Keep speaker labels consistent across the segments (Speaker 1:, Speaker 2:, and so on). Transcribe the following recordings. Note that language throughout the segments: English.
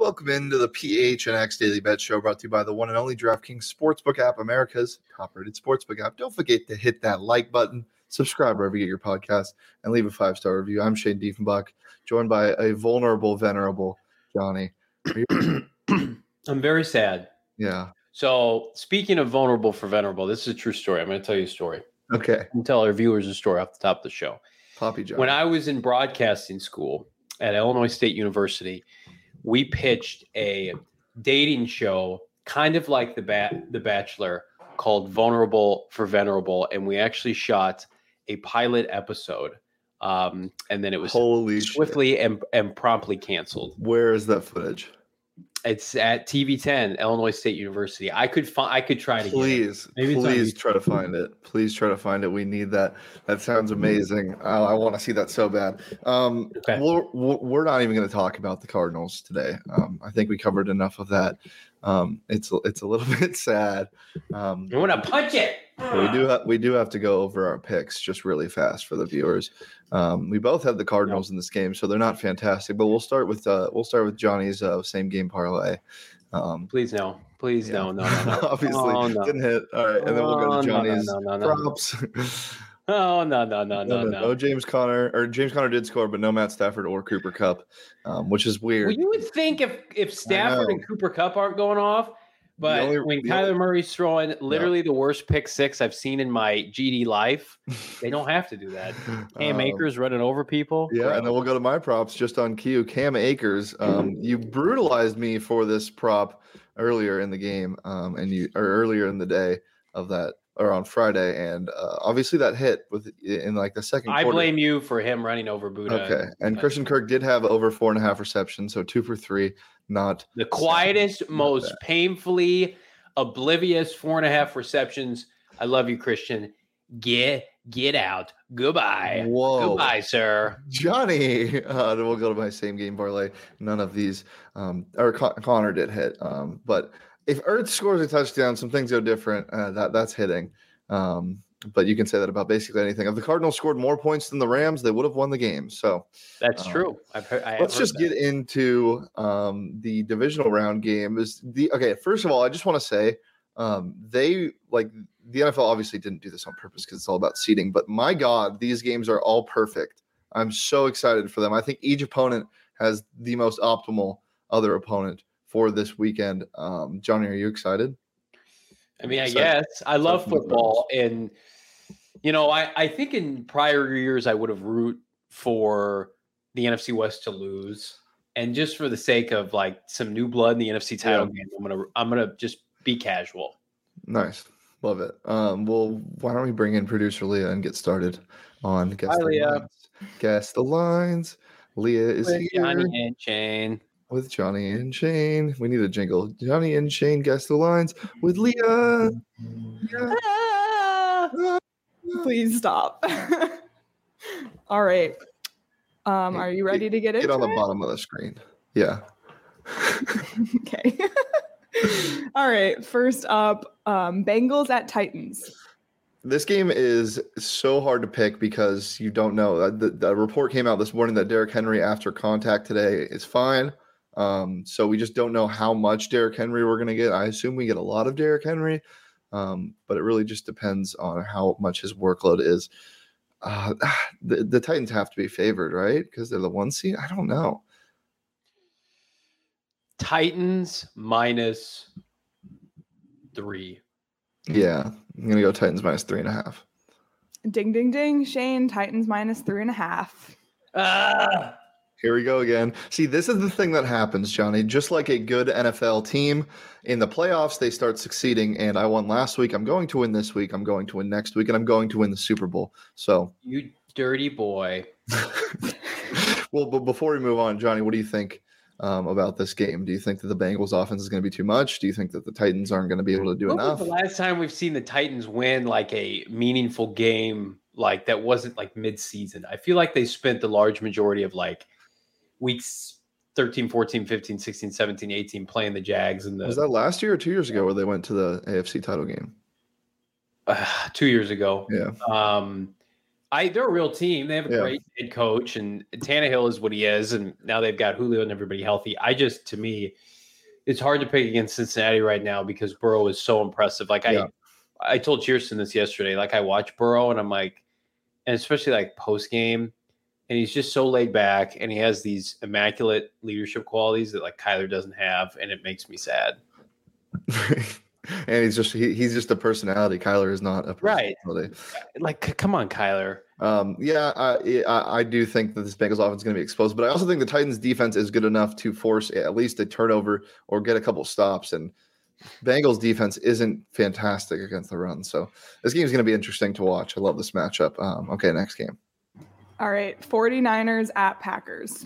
Speaker 1: Welcome into the PHNX Daily Bet Show, brought to you by the one and only DraftKings Sportsbook app, America's top-rated sportsbook app. Don't forget to hit that like button, subscribe wherever you get your podcast, and leave a 5-star review. I'm Shane Diefenbach, joined by a vulnerable, venerable Johnny.
Speaker 2: I'm very sad.
Speaker 1: Yeah.
Speaker 2: So, speaking of vulnerable for venerable, this is a true story. I'm going to tell you a story.
Speaker 1: Okay.
Speaker 2: I'm tell our viewers a story off the top of the show.
Speaker 1: Poppy John.
Speaker 2: When I was in broadcasting school at Illinois State University, we pitched a dating show, kind of like The Bachelor, called Vulnerable for Venerable, and we actually shot a pilot episode, and then it was swiftly and promptly canceled.
Speaker 1: Where is that footage?
Speaker 2: It's at TV10, Illinois State University. I could try to
Speaker 1: please try to find it. Please try to find it. We need that. That sounds amazing. I want to see that so bad. Okay. We're not even going to talk about the Cardinals today. I think we covered enough of that. It's a little bit sad.
Speaker 2: I want to punch it.
Speaker 1: We do have to go over our picks just really fast for the viewers. We both have the Cardinals in this game, so they're not fantastic. But we'll start with Johnny's same game parlay.
Speaker 2: Please no.
Speaker 1: Obviously, didn't hit. All right, and then we'll go to Johnny's props. No. James Conner did score, but no Matt Stafford or Cooper Kupp, which is weird.
Speaker 2: Well, you would think if Stafford and Cooper Kupp aren't going off. But when Kyler Murray's throwing literally the worst pick six I've seen in my GD life, they don't have to do that. Cam Akers running over people.
Speaker 1: Yeah, and then we'll go to my props just on cue. Cam Akers, you brutalized me for this prop earlier in the game, earlier in the day of that, or on Friday, and obviously that hit in like the second quarter.
Speaker 2: I blame you for him running over Buddha.
Speaker 1: Okay, and Christian Kirk did have over 4.5 receptions, so 2 for 3. Not
Speaker 2: the quietest, most painfully oblivious 4.5 receptions. I love you, Christian. Get out. Goodbye.
Speaker 1: Whoa.
Speaker 2: Goodbye, sir.
Speaker 1: Johnny. We'll go to my same game parlay. None of these, or Connor did hit. But if Ertz scores a touchdown, some things go different. That's hitting. But you can say that about basically anything. If the Cardinals scored more points than the Rams, they would have won the game. So
Speaker 2: that's true.
Speaker 1: Let's just get into the divisional round game. First of all, I just want to say the NFL obviously didn't do this on purpose because it's all about seeding. But my God, these games are all perfect. I'm so excited for them. I think each opponent has the most optimal other opponent for this weekend. Johnny, are you excited?
Speaker 2: I mean, I guess I love football, and I think in prior years I would have root for the NFC West to lose, and just for the sake of like some new blood in the NFC title game, I'm gonna just be casual.
Speaker 1: Nice, love it. Well, why don't we bring in producer Leah and get started on Guess the Lines? Guess the Lines. Leah is here.
Speaker 2: Johnny and Shane.
Speaker 1: With Johnny and Shane. We need a jingle. Johnny and Shane guess the lines with Leah.
Speaker 3: Please stop. All right. Are you ready to get into it?
Speaker 1: Get on the bottom of the screen. Yeah.
Speaker 3: Okay. All right. First up, Bengals at Titans.
Speaker 1: This game is so hard to pick because you don't know. The report came out this morning that Derrick Henry after contact today is fine. So we just don't know how much Derrick Henry we're going to get. I assume we get a lot of Derrick Henry, but it really just depends on how much his workload is. The Titans have to be favored, right? Because they're the 1 seed. I don't know.
Speaker 2: Titans -3.
Speaker 1: Yeah, I'm going to go Titans -3.5.
Speaker 3: Ding, ding, ding. Shane, Titans -3.5.
Speaker 1: Here we go again. See, this is the thing that happens, Johnny. Just like a good NFL team, in the playoffs, they start succeeding. And I won last week. I'm going to win this week. I'm going to win next week. And I'm going to win the Super Bowl. So,
Speaker 2: you dirty boy.
Speaker 1: Well, but before we move on, Johnny, what do you think about this game? Do you think that the Bengals offense is going to be too much? Do you think that the Titans aren't going to be able to do enough?
Speaker 2: When was the last time we've seen the Titans win like a meaningful game like that wasn't like mid-season? I feel like they spent the large majority of like weeks 13, 14, 15, 16, 17, 18 playing the Jags. Was
Speaker 1: that last year or 2 years ago where they went to the AFC title game?
Speaker 2: 2 years ago.
Speaker 1: Yeah.
Speaker 2: They're a real team. They have a
Speaker 1: Yeah.
Speaker 2: great head coach, and Tannehill is what he is, and now they've got Julio and everybody healthy. To me, it's hard to pick against Cincinnati right now because Burrow is so impressive. Like I told Cheerson this yesterday. Like I watch Burrow, and I'm like, and especially like post game, and he's just so laid back, and he has these immaculate leadership qualities that like Kyler doesn't have, and it makes me sad.
Speaker 1: And he's just a personality. Kyler is not a personality.
Speaker 2: Right. Like, come on, Kyler.
Speaker 1: I do think that this Bengals offense is going to be exposed, but I also think the Titans defense is good enough to force at least a turnover or get a couple stops. And Bengals defense isn't fantastic against the run. So this game is going to be interesting to watch. I love this matchup. Okay, next game.
Speaker 3: All right, 49ers at Packers.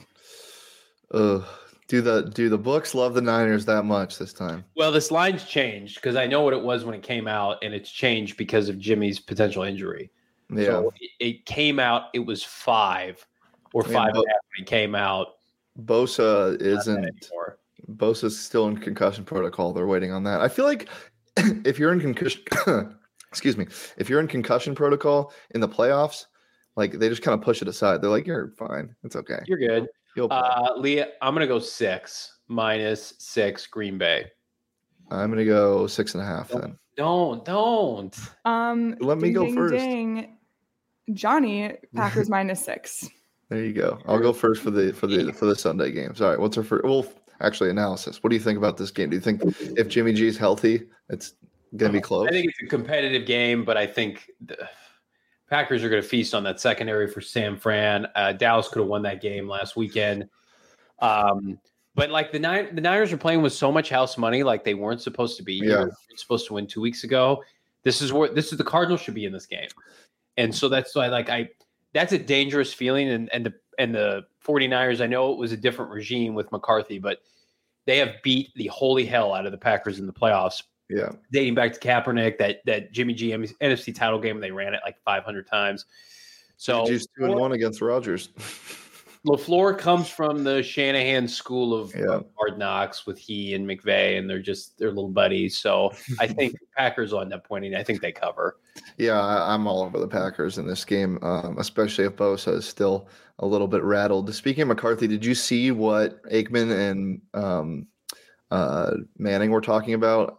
Speaker 1: Do the books love the Niners that much this time?
Speaker 2: Well, this line's changed because I know what it was when it came out, and it's changed because of Jimmy's potential injury.
Speaker 1: Yeah.
Speaker 2: So it came out, it was 5 or 5.5 when it came out.
Speaker 1: Bosa's still in concussion protocol. They're waiting on that. I feel like if you're in concussion, if you're in concussion protocol in the playoffs, like they just kind of push it aside. They're like, you're fine. It's okay.
Speaker 2: You're good. Leah, I'm going to go 6 -6 Green Bay.
Speaker 1: I'm going to go 6.5 then.
Speaker 2: Don't.
Speaker 1: Let me go first.
Speaker 3: Ding. Johnny, Packers -6.
Speaker 1: There you go. I'll go first for the Sunday games. All right. What's our first? Well, actually, analysis. What do you think about this game? Do you think if Jimmy G is healthy, it's going to be close?
Speaker 2: I think it's a competitive game, but I think the Packers are going to feast on that secondary for San Fran. Dallas could have won that game last weekend. But like the Niners are playing with so much house money, like they weren't supposed to be.
Speaker 1: Yeah.
Speaker 2: They were supposed to win 2 weeks ago. This is the Cardinals should be in this game. And so that's why that's a dangerous feeling. And the 49ers, I know it was a different regime with McCarthy, but they have beat the holy hell out of the Packers in the playoffs.
Speaker 1: Yeah. Dating
Speaker 2: back to Kaepernick, that Jimmy G NFC title game, they ran it like 500 times. So
Speaker 1: Jimmy's 2-1 against Rodgers.
Speaker 2: LaFleur comes from the Shanahan school of Hard Knocks with he and McVay, and they're little buddies. So I think Packers will end up winning. I think they cover.
Speaker 1: Yeah, I'm all over the Packers in this game, especially if Bosa is still a little bit rattled. Speaking of McCarthy, did you see what Aikman and Manning were talking about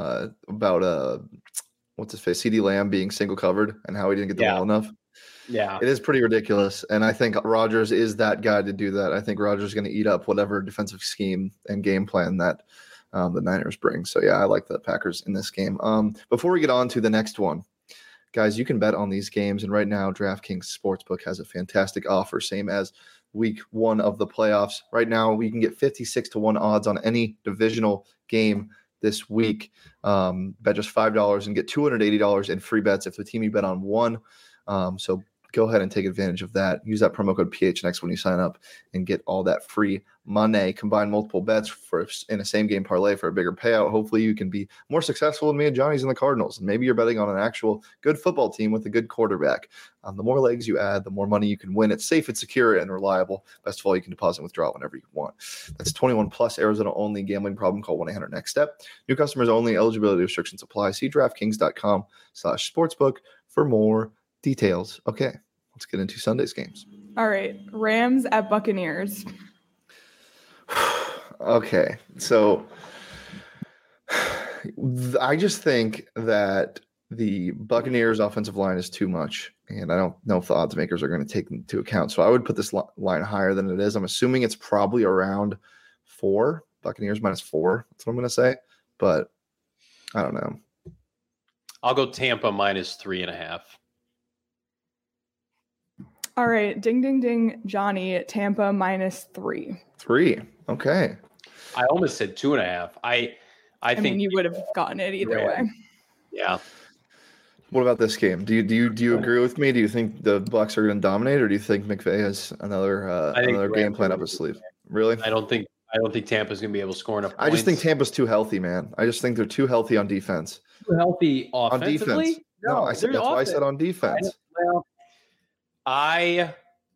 Speaker 1: what's his face, CeeDee Lamb being single covered and how he didn't get the ball enough?
Speaker 2: Yeah,
Speaker 1: it is pretty ridiculous. And I think Rodgers is that guy to do that. I think Rodgers is going to eat up whatever defensive scheme and game plan that the Niners bring. So, yeah, I like the Packers in this game. Before we get on to the next one, guys, you can bet on these games. And right now, DraftKings Sportsbook has a fantastic offer, same as week 1 of the playoffs. Right now, we can get 56-1 odds on any divisional game this week. Bet just $5 and get $280 in free bets if the team you bet on won. So go ahead and take advantage of that. Use that promo code PHNX when you sign up and get all that free money. Combine multiple bets in a same game parlay for a bigger payout. Hopefully you can be more successful than me and Johnny's in the Cardinals. And maybe you're betting on an actual good football team with a good quarterback. The more legs you add, the more money you can win. It's safe, it's secure, and reliable. Best of all, you can deposit and withdraw whenever you want. That's 21 plus, Arizona only. Gambling problem, call 1-800-NEXT-STEP. New customers only. Eligibility restrictions apply. See DraftKings.com/sportsbook for more details. Okay, let's get into Sunday's games.
Speaker 3: All right, Rams at Buccaneers.
Speaker 1: Okay, so I just think that the Buccaneers offensive line is too much, and I don't know if the odds makers are going to take into account. So I would put this line higher than it is. I'm assuming it's probably around 4. Buccaneers -4. That's what I'm going to say, but I don't know.
Speaker 2: I'll go Tampa -3.5.
Speaker 3: All right, ding, ding, ding, Johnny, Tampa -3.
Speaker 1: 3. Okay.
Speaker 2: I almost said 2.5. I think
Speaker 3: mean, you would have gotten it either way.
Speaker 2: Yeah.
Speaker 1: What about this game? Do you agree with me? Do you think the Bucs are going to dominate, or do you think McVay has another game plan up his sleeve? Really?
Speaker 2: I don't think Tampa's going to be able to score enough points.
Speaker 1: I just think Tampa's too healthy, man. I just think they're too healthy on defense.
Speaker 2: Too healthy offensively?
Speaker 1: On defense. No, I said that's why I said on defense.
Speaker 2: I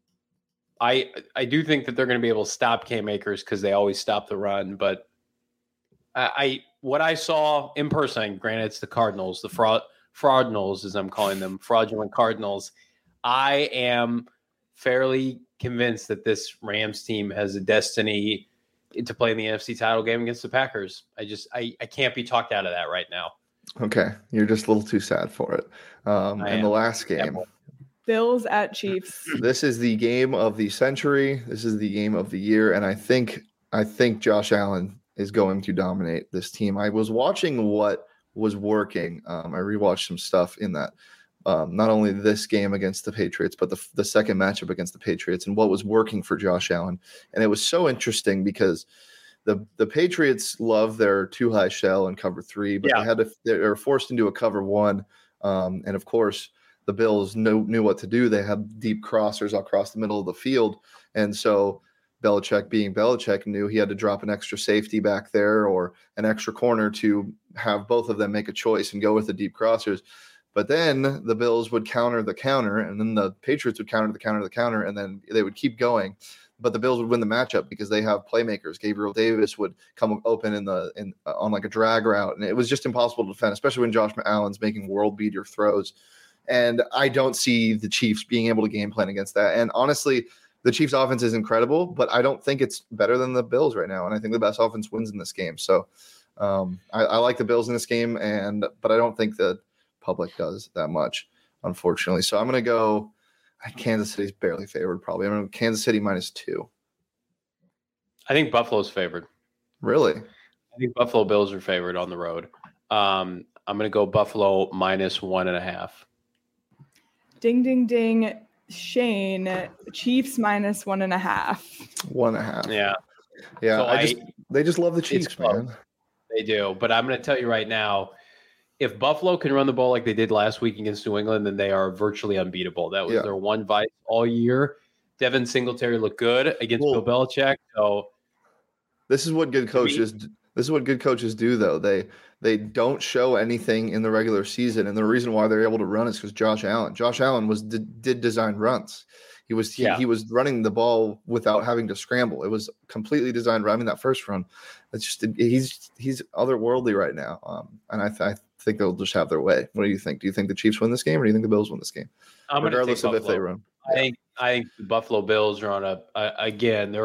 Speaker 2: do think that they're going to be able to stop Cam Akers because they always stop the run. But what I saw in person, granted it's the Cardinals, the fraudnals as I'm calling them, fraudulent Cardinals. I am fairly convinced that this Rams team has a destiny to play in the NFC title game against the Packers. I can't be talked out of that right now.
Speaker 1: Okay, you're just a little too sad for it. And the last game,
Speaker 3: Bills at Chiefs.
Speaker 1: This is the game of the century. This is the game of the year, and I think Josh Allen is going to dominate this team. I was watching what was working. I rewatched some stuff in that. Not only this game against the Patriots, but the second matchup against the Patriots, and what was working for Josh Allen. And it was so interesting because the Patriots love their too high shell and cover 3, but they were forced into a cover 1. And of course, the Bills knew what to do. They had deep crossers across the middle of the field, and so Belichick, being Belichick, knew he had to drop an extra safety back there or an extra corner to have both of them make a choice and go with the deep crossers. But then the Bills would counter the counter, and then the Patriots would counter the counter, and then they would keep going. But the Bills would win the matchup because they have playmakers. Gabriel Davis would come open on like a drag route, and it was just impossible to defend, especially when Josh Allen's making world beater throws. And I don't see the Chiefs being able to game plan against that. And honestly, the Chiefs' offense is incredible, but I don't think it's better than the Bills right now. And I think the best offense wins in this game. So I like the Bills in this game, but I don't think the public does that much, unfortunately. So I'm going to go Kansas City's barely favored, probably. I'm going to go Kansas City -2.
Speaker 2: I think Buffalo's favored.
Speaker 1: Really?
Speaker 2: I think Buffalo Bills are favored on the road. I'm going to go Buffalo -1.5.
Speaker 3: Ding, ding, ding. Shane, Chiefs -1.5.
Speaker 1: 1.5.
Speaker 2: Yeah.
Speaker 1: Yeah. So they just love the Chiefs, man.
Speaker 2: They do. But I'm going to tell you right now, if Buffalo can run the ball like they did last week against New England, then they are virtually unbeatable. That was their one vice all year. Devin Singletary looked good against Bill Belichick. So
Speaker 1: this is what good coaches do, though. They don't show anything in the regular season, and the reason why they're able to run is because Josh Allen did design runs. He was running the ball without having to scramble. It was completely designed run. I mean, that first run, it's just he's otherworldly right now. And I think they'll just have their way. What do you think? Do you think the Chiefs win this game, or do you think the Bills win this game? Regardless of if they run.
Speaker 2: I think the Buffalo Bills are on again.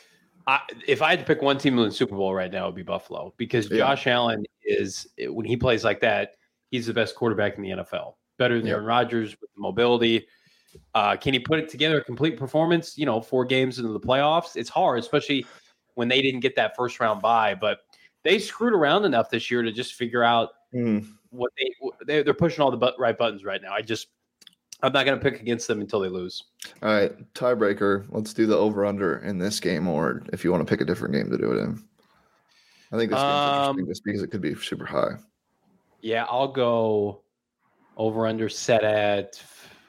Speaker 2: If I had to pick one team to win the Super Bowl right now, it would be Buffalo, because Josh Allen when he plays like that, he's the best quarterback in the NFL. Better than Aaron Rodgers with the mobility. Can he put it together a complete performance? 4 games into the playoffs, it's hard, especially when they didn't get that first round bye. But they screwed around enough this year to just figure out what they're pushing all the right buttons right now. I'm not going to pick against them until they lose.
Speaker 1: All right, tiebreaker. Let's do the over/under in this game, or if you want to pick a different game to do it in. I think this game's interesting just because it could be super high.
Speaker 2: Yeah, I'll go over/under set at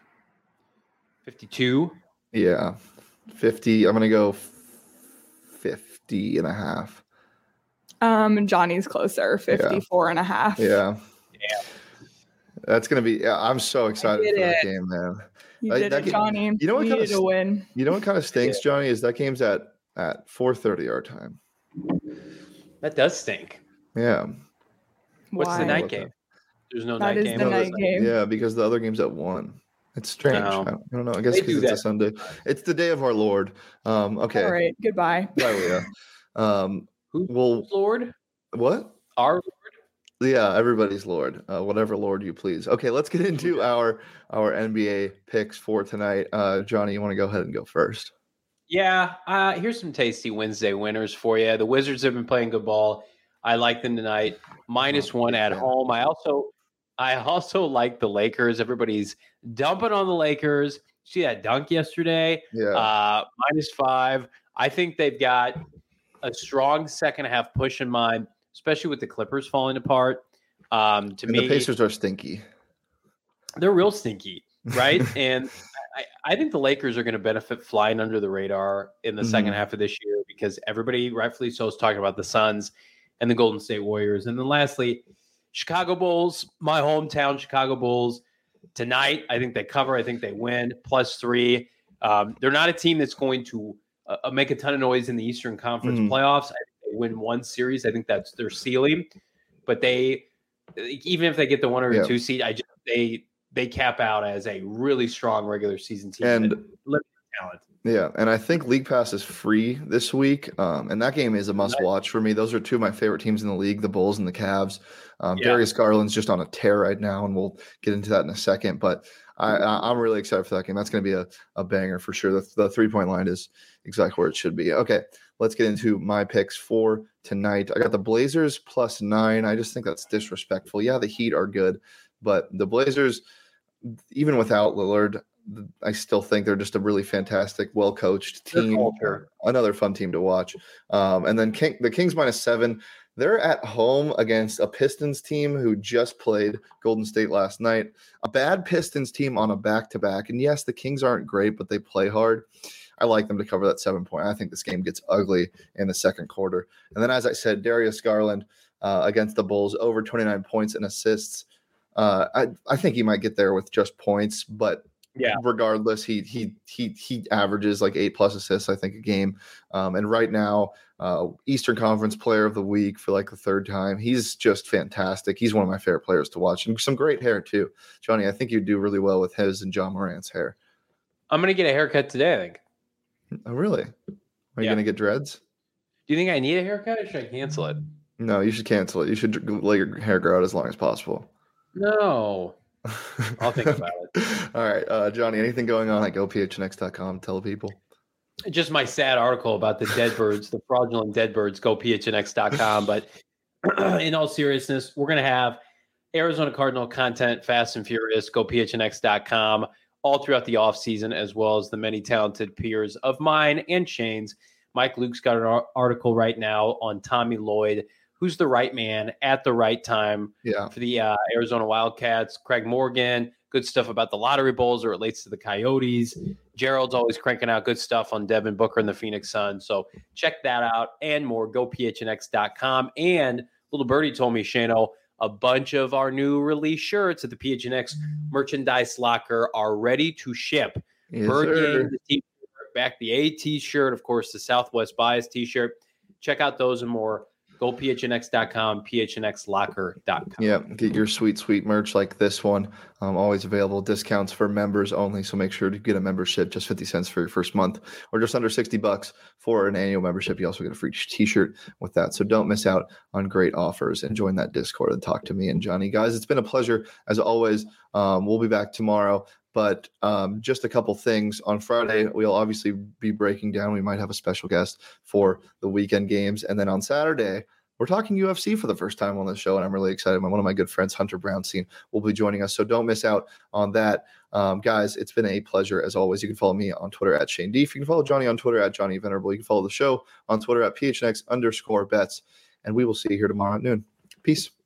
Speaker 2: 52.
Speaker 1: Yeah, 50. I'm going to go 50.5.
Speaker 3: Johnny's closer, 54.5.
Speaker 1: Yeah. That's going to be I'm so excited for that game, man.
Speaker 3: You did it, Johnny.
Speaker 1: You know what
Speaker 3: kind of to win.
Speaker 1: You know what kind of stinks, Johnny, is that game's at 4:30 our time.
Speaker 2: That does stink.
Speaker 1: Yeah.
Speaker 2: What's the night game? There's no night game.
Speaker 3: That is the night game.
Speaker 1: Yeah, because the other game's at 1. It's strange. I don't know. I guess because it's a Sunday. It's the day of our Lord. Okay.
Speaker 3: All right. Goodbye.
Speaker 1: Bye, Leah.
Speaker 2: Who's Lord?
Speaker 1: What?
Speaker 2: Our Lord?
Speaker 1: Yeah, everybody's Lord. Whatever Lord you please. Okay, let's get into our NBA picks for tonight. Johnny, you want to go ahead and go first?
Speaker 2: Yeah. Here's some tasty Wednesday winners for you. The Wizards have been playing good ball. I like them tonight. -1 at home. I also like the Lakers. Everybody's dumping on the Lakers. See that dunk yesterday?
Speaker 1: Yeah.
Speaker 2: -5. I think they've got a strong second half push in mind, especially with the Clippers falling apart. The
Speaker 1: Pacers are stinky.
Speaker 2: They're real stinky, right? And I think the Lakers are going to benefit flying under the radar in the second half of this year, because everybody, rightfully so, is talking about the Suns and the Golden State Warriors. And then lastly, Chicago Bulls, my hometown Chicago Bulls. Tonight, I think they cover. I think they win +3. They're not a team that's going to make a ton of noise in the Eastern Conference playoffs. I think they win one series. I think that's their ceiling. But even if they get the 1 or 2 seed, they cap out as a really strong regular season team
Speaker 1: And
Speaker 2: limited talent.
Speaker 1: Yeah, and I think League Pass is free this week, and that game is a must-watch for me. Those are two of my favorite teams in the league, the Bulls and the Cavs. Darius Garland's just on a tear right now, and we'll get into that in a second. But I'm really excited for that game. That's going to be a banger for sure. The three-point line is exactly where it should be. Okay, let's get into my picks for tonight. I got the Blazers +9. I just think that's disrespectful. Yeah, the Heat are good, but the Blazers, even without Lillard, I still think they're just a really fantastic, well-coached team. Another fun team to watch. And then the Kings -7. They're at home against a Pistons team who just played Golden State last night. A bad Pistons team on a back-to-back. And yes, the Kings aren't great, but they play hard. I like them to cover that 7 point. I think this game gets ugly in the second quarter. And then, as I said, Darius Garland against the Bulls, over 29 points and assists. I think he might get there with just points, but regardless, he averages like 8+ assists, I think, a game. And right now, Eastern Conference Player of the Week for like the third time. He's just fantastic. He's one of my favorite players to watch, and some great hair too. Johnny, I think you'd do really well with his and John Morant's hair.
Speaker 2: I'm gonna get a haircut today, I think.
Speaker 1: Oh, really? Are you gonna get dreads?
Speaker 2: Do you think I need a haircut, or should I cancel it?
Speaker 1: No, you should cancel it. You should let your hair grow out as long as possible.
Speaker 2: No. I'll think about it.
Speaker 1: All right, Johnny, anything going on at gophnx.com? Tell people.
Speaker 2: Just my sad article about the dead birds, the fraudulent dead birds, gophnx.com. But in all seriousness, we're going to have Arizona Cardinal content, fast and furious, gophnx.com, all throughout the offseason, as well as the many talented peers of mine and Shane's. Mike Luke's got an article right now on Tommy Lloyd, who's the right man at the right time for the Arizona Wildcats. Craig Morgan, good stuff about the lottery bowls as it relates to the Coyotes. Gerald's always cranking out good stuff on Devin Booker and the Phoenix Suns. So check that out and more, gophnx.com. And little birdie told me, Shano, a bunch of our new release shirts at the PHNX merchandise locker are ready to ship.
Speaker 1: Yes,
Speaker 2: Bird Gang, the t-shirt, back the A t-shirt, of course, the Southwest Bias t-shirt. Check out those and more. GoPHNX.com, PHNXlocker.com.
Speaker 1: Yeah, get your sweet, sweet merch like this one. Always available. Discounts for members only. So make sure to get a membership, just 50 cents for your first month, or just under $60 for an annual membership. You also get a free t-shirt with that. So don't miss out on great offers and join that Discord and talk to me and Johnny. Guys, it's been a pleasure as always. We'll be back tomorrow. But just a couple things. On Friday, we'll obviously be breaking down. We might have a special guest for the weekend games. And then on Saturday, we're talking UFC for the first time on the show, and I'm really excited. One of my good friends, Hunter Brownstein, will be joining us. So don't miss out on that. Guys, it's been a pleasure as always. You can follow me on Twitter at Shane Deef. You can follow Johnny on Twitter at Johnny Venerable. You can follow the show on Twitter at PHNX_bets. And we will see you here tomorrow at noon. Peace.